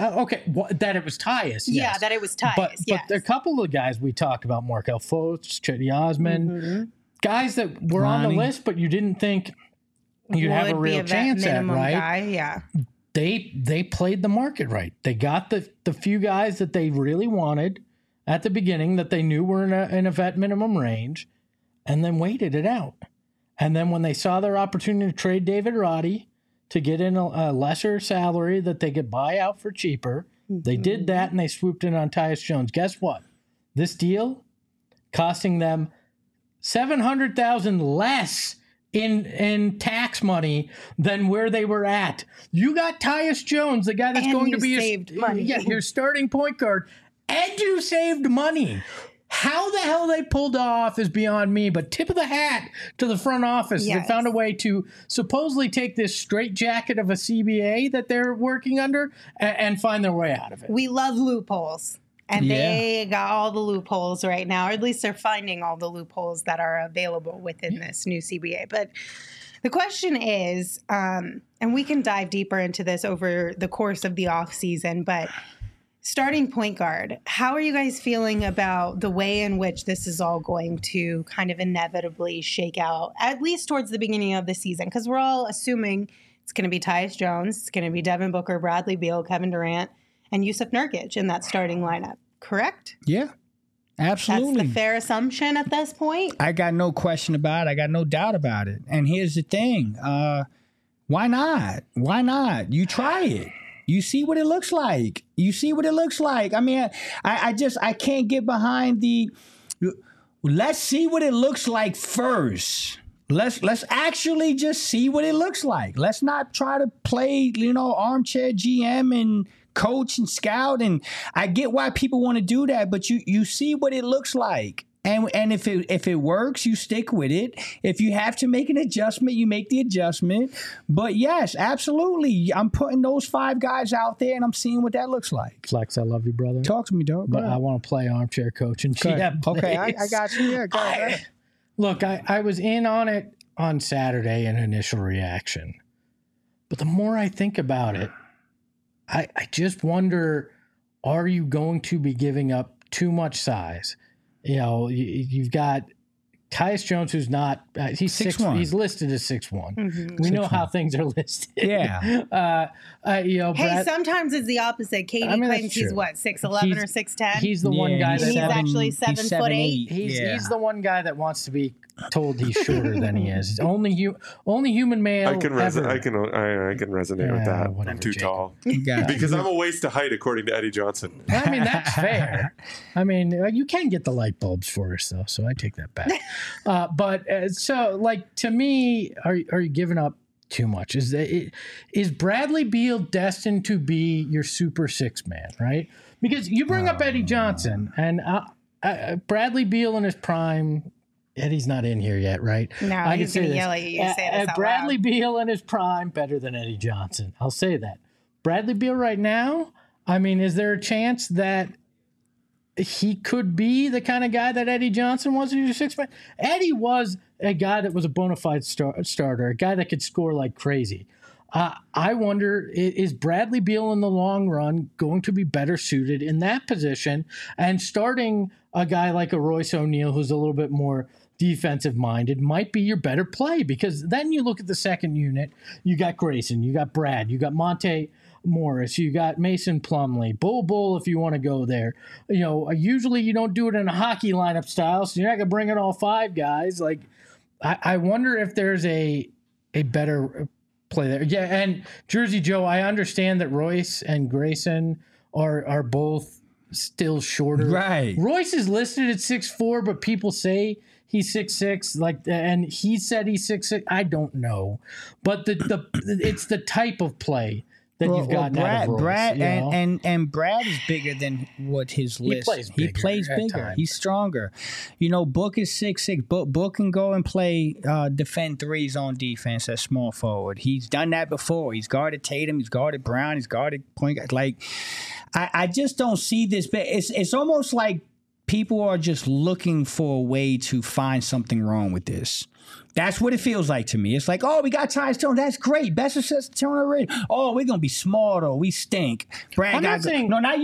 That it was Tyus. Yeah, that it was Tyus. But a couple of guys we talked about, Markelle Fultz, Cedi Osman, guys that were on the list, but you didn't think you'd have a real chance at, right? Guy, yeah. They played the market right. They got the few guys that they really wanted at the beginning that they knew were in a vet minimum range, and then waited it out. And then when they saw their opportunity to trade David Roddy to get in a lesser salary that they could buy out for cheaper, they did that, and they swooped in on Tyus Jones. Guess what? This deal costing them $700,000 less in tax money than where they were at. You got Tyus Jones, the guy that's going to be your starting point guard, and you saved money. How the hell they pulled off is beyond me, but tip of the hat to the front office. Yes. They found a way to supposedly take this straitjacket of a CBA that they're working under and find their way out of it. We love loopholes. And they got all the loopholes right now, or at least they're finding all the loopholes that are available within this new CBA. But the question is, and we can dive deeper into this over the course of the offseason, but starting point guard, how are you guys feeling about the way in which this is all going to kind of inevitably shake out, at least towards the beginning of the season? Because we're all assuming it's going to be Tyus Jones, it's going to be Devin Booker, Bradley Beal, Kevin Durant, and Jusuf Nurkic in that starting lineup, correct? Yeah, absolutely. That's the fair assumption at this point? I got no question about it. I got no doubt about it. And here's the thing. Why not? Why not? You try it. You see what it looks like. I mean, I can't get behind let's see what it looks like first. Let's actually just see what it looks like. Let's not try to play, armchair GM and coach and scout. And I get why people want to do that, but you see what it looks like. And if it works, you stick with it. If you have to make an adjustment, you make the adjustment. But yes, absolutely. I'm putting those 5 guys out there and I'm seeing what that looks like. Flex, I love you, brother. Talk to me, dog. But I want to play armchair coach and GM. Okay, I got you. Yeah, go ahead. Look, I was in on it on Saturday in initial reaction. But the more I think about it, I just wonder, are you going to be giving up too much size? You've got Tyus Jones, who's not, he's 6'1". He's listed as 6'1". Mm-hmm. We know how things are listed. Yeah. Hey, sometimes it's the opposite. Katie claims he's what, 6'11" or 6'10"? He's the one guy that he's actually 7'8". He's the one guy that wants to be told he's shorter than he is. Only human male. I can resonate with that. I'm too tall because I'm a waist to height, according to Eddie Johnson. I mean, that's fair. I mean, you can get the light bulbs for us though, so I take that back. So, like, to me, are you giving up too much? Is Bradley Beal destined to be your super 6 man, right? Because you bring up Eddie Johnson and Bradley Beal in his prime. Eddie's not in here yet, right? No, he's going to yell at you. You say this out Bradley loud. Beal in his prime, better than Eddie Johnson. I'll say that. Bradley Beal right now, I mean, is there a chance that he could be the kind of guy that Eddie Johnson was in your 6 man? Eddie was a guy that was a bona fide starter, a guy that could score like crazy. I wonder, is Bradley Beal in the long run going to be better suited in that position and starting a guy like a Royce O'Neal who's a little bit more defensive minded might be your better play? Because then you look at the second unit, you got Grayson, you got Brad, you got Monte Morris, you got Mason Plumlee, Bull if you want to go there. Usually you don't do it in a hockey lineup style, so you're not going to bring in all 5 guys. Like, I wonder if there's a better play there. Yeah, and Jersey Joe, I understand that Royce and Grayson are both still shorter. Right. Royce is listed at 6'4", but people say he's 6'6", and he said he's 6'6". I don't know, but it's the type of play that you've gotten out of Royce. Brad, and Brad is bigger than what his list. He plays bigger. He's stronger. Book is 6'6". Book can go and play defend threes on defense at small forward. He's done that before. He's guarded Tatum. He's guarded Brown. He's guarded point guard. Like, I just don't see this. It's almost like people are just looking for a way to find something wrong with this. That's what it feels like to me. It's like, oh, we got Tyus Jones. That's great. Best assist Tony already. Oh, we're gonna be small though. We stink. Brad, not you. Not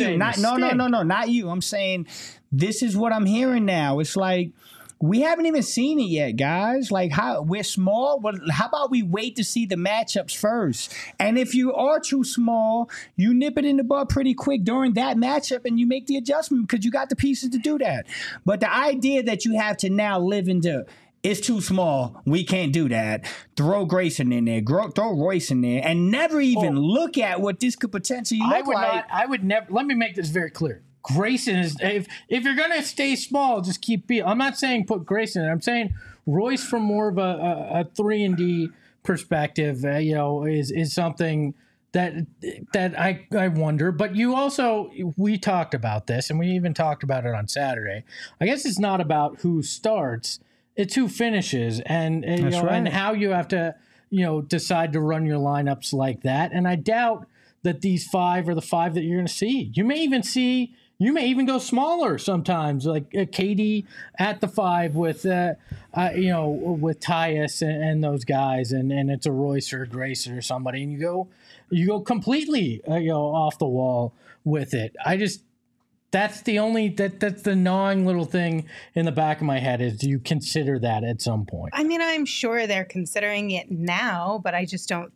you. I'm saying this is what I'm hearing now. It's like we haven't even seen it yet, guys. Like, how we're small. Well, how about we wait to see the matchups first? And if you are too small, you nip it in the bud pretty quick during that matchup, and you make the adjustment because you got the pieces to do that. But the idea that you have to now live into it's too small, we can't do that. Throw Grayson in there, throw Royce in there, and never even look at what this could potentially look like. I would never. Let me make this very clear. Grayson is, if you're going to stay small, just keep Beal. I'm not saying put Grayson in. I'm saying Royce from more of a 3-and-D perspective, is something that I wonder. But we talked about this, and we even talked about it on Saturday. I guess it's not about who starts, it's who finishes, and and how you have to decide to run your lineups like that. And I doubt that these 5 are the 5 that you're going to see. You may even go smaller sometimes, like KD at the 5 with with Tyus and those guys, and it's a Royce or a Grayson or somebody, and you go completely off the wall with it. That's the gnawing little thing in the back of my head is, do you consider that at some point? I mean, I'm sure they're considering it now, but I just don't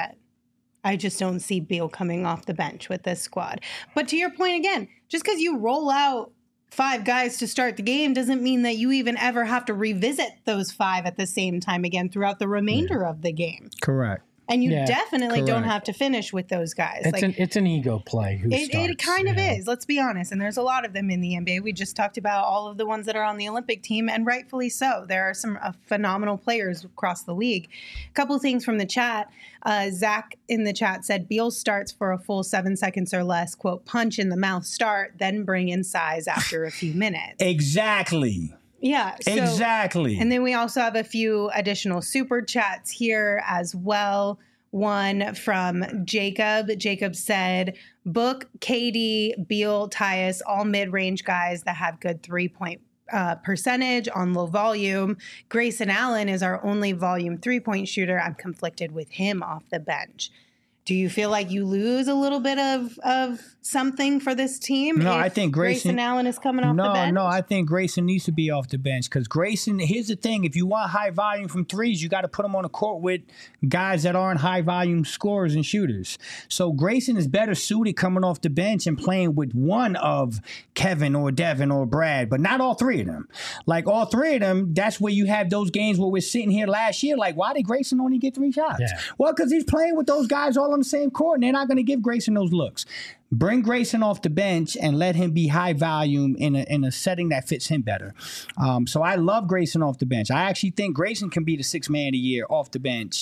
see Beal coming off the bench with this squad. But to your point again, just because you roll out 5 guys to start the game doesn't mean that you even ever have to revisit those 5 at the same time again throughout the remainder of the game. Correct. And you definitely don't have to finish with those guys. It's an ego play. It kind of is, let's be honest. And there's a lot of them in the NBA. We just talked about all of the ones that are on the Olympic team, and rightfully so. There are some phenomenal players across the league. A couple of things from the chat. Zach in the chat said, Beal starts for a full 7 seconds or less, quote, punch in the mouth start, then bring in size after a few minutes. Exactly. Yeah. Exactly. And then we also have a few additional super chats here as well. One from Jacob. Jacob said, book, KD, Beal, Tyus, all mid-range guys that have good 3-point percentage on low volume. Grayson Allen is our only volume 3-point shooter. I'm conflicted with him off the bench. Do you feel like you lose a little bit of something for this team? No, I think Grayson Allen is coming off the bench. No, I think Grayson needs to be off the bench because Grayson, here's the thing. If you want high volume from threes, you got to put him on the court with guys that aren't high volume scorers and shooters. So Grayson is better suited coming off the bench and playing with one of Kevin or Devin or Brad, but not all 3 of them. Like all 3 of them, that's where you have those games where we're sitting here last year. Like, why did Grayson only get 3 shots? Yeah. Well, because he's playing with those guys all on the same court, and they're not going to give Grayson those looks. Bring Grayson off the bench and let him be high volume in a setting that fits him better. So I love Grayson off the bench. I actually think Grayson can be the 6th man of the year off the bench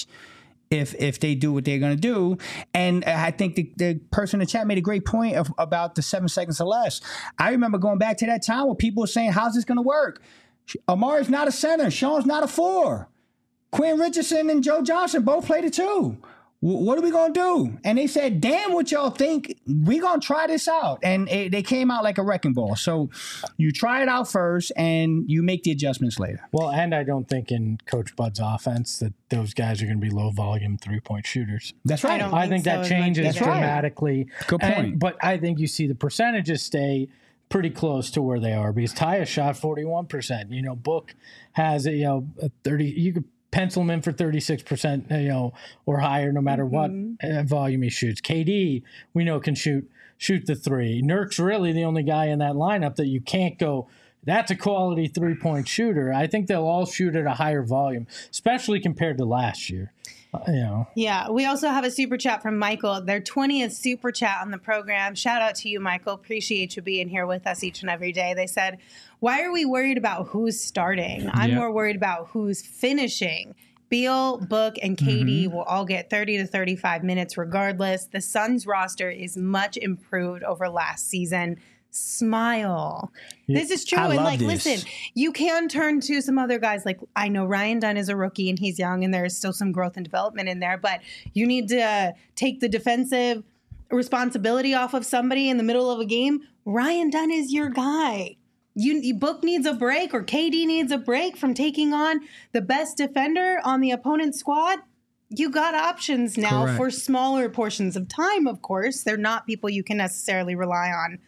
if they do what they're going to do. And I think the person in the chat made a great point about the 7 seconds or less. I remember going back to that time where people were saying, how's this going to work? Amari's not a center. Sean's not a 4. Quinn Richardson and Joe Johnson both played the 2. What are we going to do? And they said, damn what y'all think. We're going to try this out. And they came out like a wrecking ball. So you try it out first and you make the adjustments later. Well, and I don't think in Coach Bud's offense that those guys are going to be low volume 3-point shooters. That's right. I think that changes dramatically. Good point. But I think you see the percentages stay pretty close to where they are because Tyus shot 41%. Book has a 30. You could pencil him in for 36%, or higher, no matter what volume he shoots. KD, we know, can shoot the 3. Nurk's really the only guy in that lineup that you can't go, that's a quality 3-point shooter. I think they'll all shoot at a higher volume, especially compared to last year. Yeah, we also have a super chat from Michael, their 20th super chat on the program. Shout out to you, Michael. Appreciate you being here with us each and every day. They said, why are we worried about who's starting? I'm more worried about who's finishing. Beal, Book, and KD will all get 30 to 35 minutes regardless. The Suns roster is much improved over last season. Smile. Yeah. This is true. And listen, you can turn to some other guys. Like, I know Ryan Dunn is a rookie and he's young and there's still some growth and development in there, but you need to take the defensive responsibility off of somebody in the middle of a game. Ryan Dunn is your guy. Book needs a break, or KD needs a break from taking on the best defender on the opponent's squad. You got options now for smaller portions of time, of course. They're not people you can necessarily rely on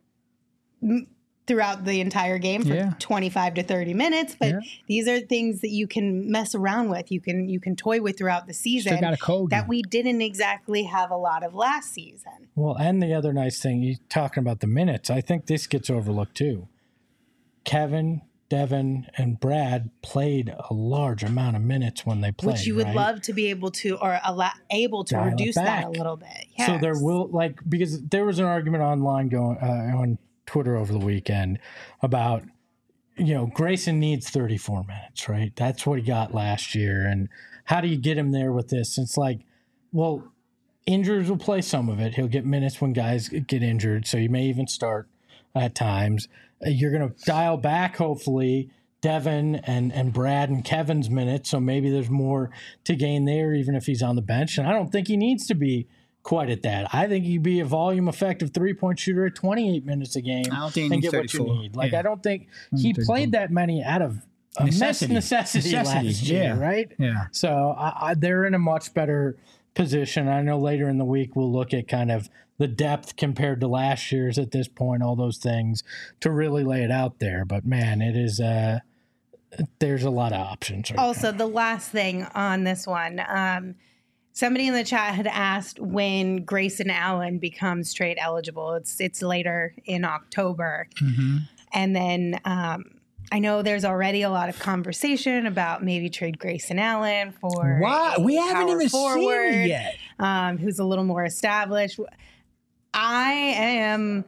throughout the entire game for 25 to 30 minutes, but these are things that you can mess around with. You can toy with throughout the season that we didn't exactly have a lot of last season. Well, and the other nice thing, you're talking about the minutes, I think this gets overlooked too. Kevin, Devin, and Brad played a large amount of minutes when they played. Which you would love to be able to, or able to reduce that a little bit. Yes. So there will, because there was an argument online going on Twitter over the weekend about, Grayson needs 34 minutes, right? That's what he got last year. And how do you get him there with this? It's like, well, injuries will play some of it. He'll get minutes when guys get injured. So you may even start at times. You're going to dial back, hopefully, Devin and Brad and Kevin's minutes. So maybe there's more to gain there, even if he's on the bench. And I don't think he needs to be quite at that. I think he'd be a volume effective 3-point shooter at 28 minutes a game. I don't think and get 34. What you need. I don't think he played that many out of necessity last year, right? Yeah. So they're in a much better position. I know later in the week we'll look at kind of the depth compared to last year's at this point, all those things to really lay it out there. But man, it is there's a lot of options. Right also, now. The last thing on this one, somebody in the chat had asked when Grayson Allen becomes trade eligible. It's later in October. Mm-hmm. And then I know there's already a lot of conversation about maybe trade Grayson Allen for we haven't even seen it yet. Who's a little more established. I am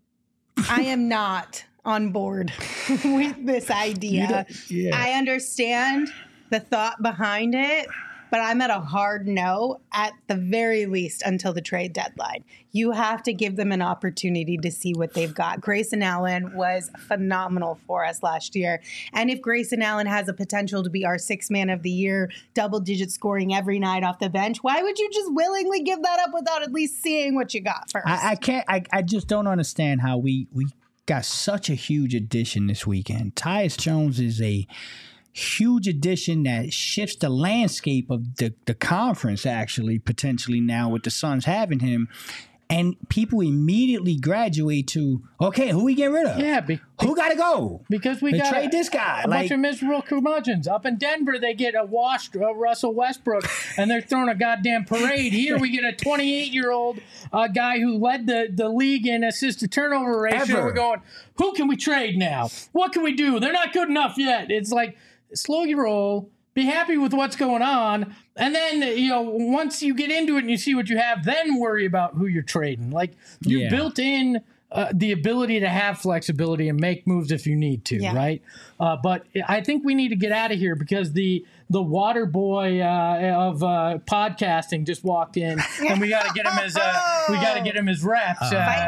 not on board with this idea. I understand the thought behind it, but I'm at a hard no at the very least until the trade deadline. You have to give them an opportunity to see what they've got. Grayson Allen was phenomenal for us last year. And if Grayson Allen has a potential to be our sixth man of the year, double-digit scoring every night off the bench, why would you just willingly give that up without at least seeing what you got first? I just don't understand how we got such a huge addition this weekend. Tyus Jones is a huge addition that shifts the landscape of the conference, actually, potentially now with the Suns having him. And people immediately graduate to, okay, who we get rid of? Yeah. Who got to go? Because we got trade this guy. A bunch of miserable curmudgeons. Up in Denver, they get a washed Russell Westbrook, and they're throwing a goddamn parade. Here we get a 28-year-old guy who led the league in assist-to-turnover ratio. We're going, who can we trade now? What can we do? They're not good enough yet. It's like, slow your roll, be happy with what's going on, and then, once you get into it and you see what you have, then worry about who you're trading. Like, you built in the ability to have flexibility and make moves if you need to, right? But I think we need to get out of here because the water boy of podcasting just walked in, and we got to get him his reps.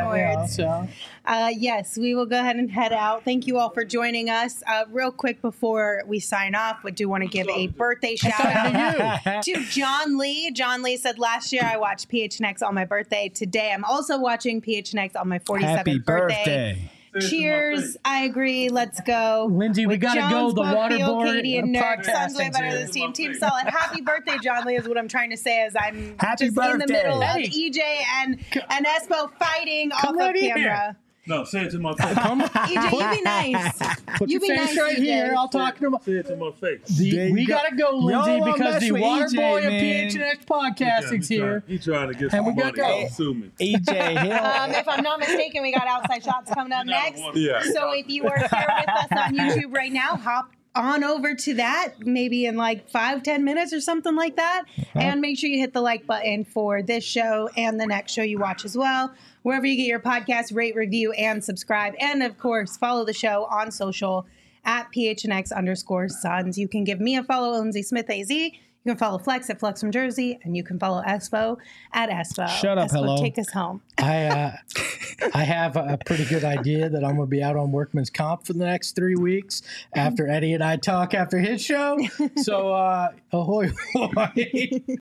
Yes, we will go ahead and head out. Thank you all for joining us. Real quick before we sign off, we do want to give a birthday shout out to John Lee. John Lee said, last year I watched PHNX on my birthday. Today I'm also watching PHNX on my 47th birthday. Cheers. I agree. Let's go. Lindsay, we got to go. The Waterboard Katie and Nerd. Suns way better than this team. Team solid. Happy birthday, John Lee, is what I'm trying to say as I'm in the middle of EJ and Espo fighting off of camera. No, say it to my face. EJ, you be nice. Put your face right here. I'll talk to him. Say it to my face. We got to go, Lindsay, because the water boy of PHNX podcasting's here. He's trying to get some money. Don't sue me. EJ Hill. If I'm not mistaken, we got Outside Shots coming up next. Yeah. So if you are here with us on YouTube right now, hop on over to that, maybe in like 5-10 minutes or something like that. And make sure you hit the like button for this show and the next show you watch as well. Wherever you get your podcast, rate, review, and subscribe. And of course, follow the show on social at PHNX_Suns. You can give me a follow, Lindsay Smith AZ. You can follow Flex at Flex from Jersey, and you can follow Espo at Espo. Shut up, Espo, hello. Take us home. I have a pretty good idea that I'm going to be out on Workman's Comp for the next 3 weeks after Eddie and I talk after his show. So, ahoy.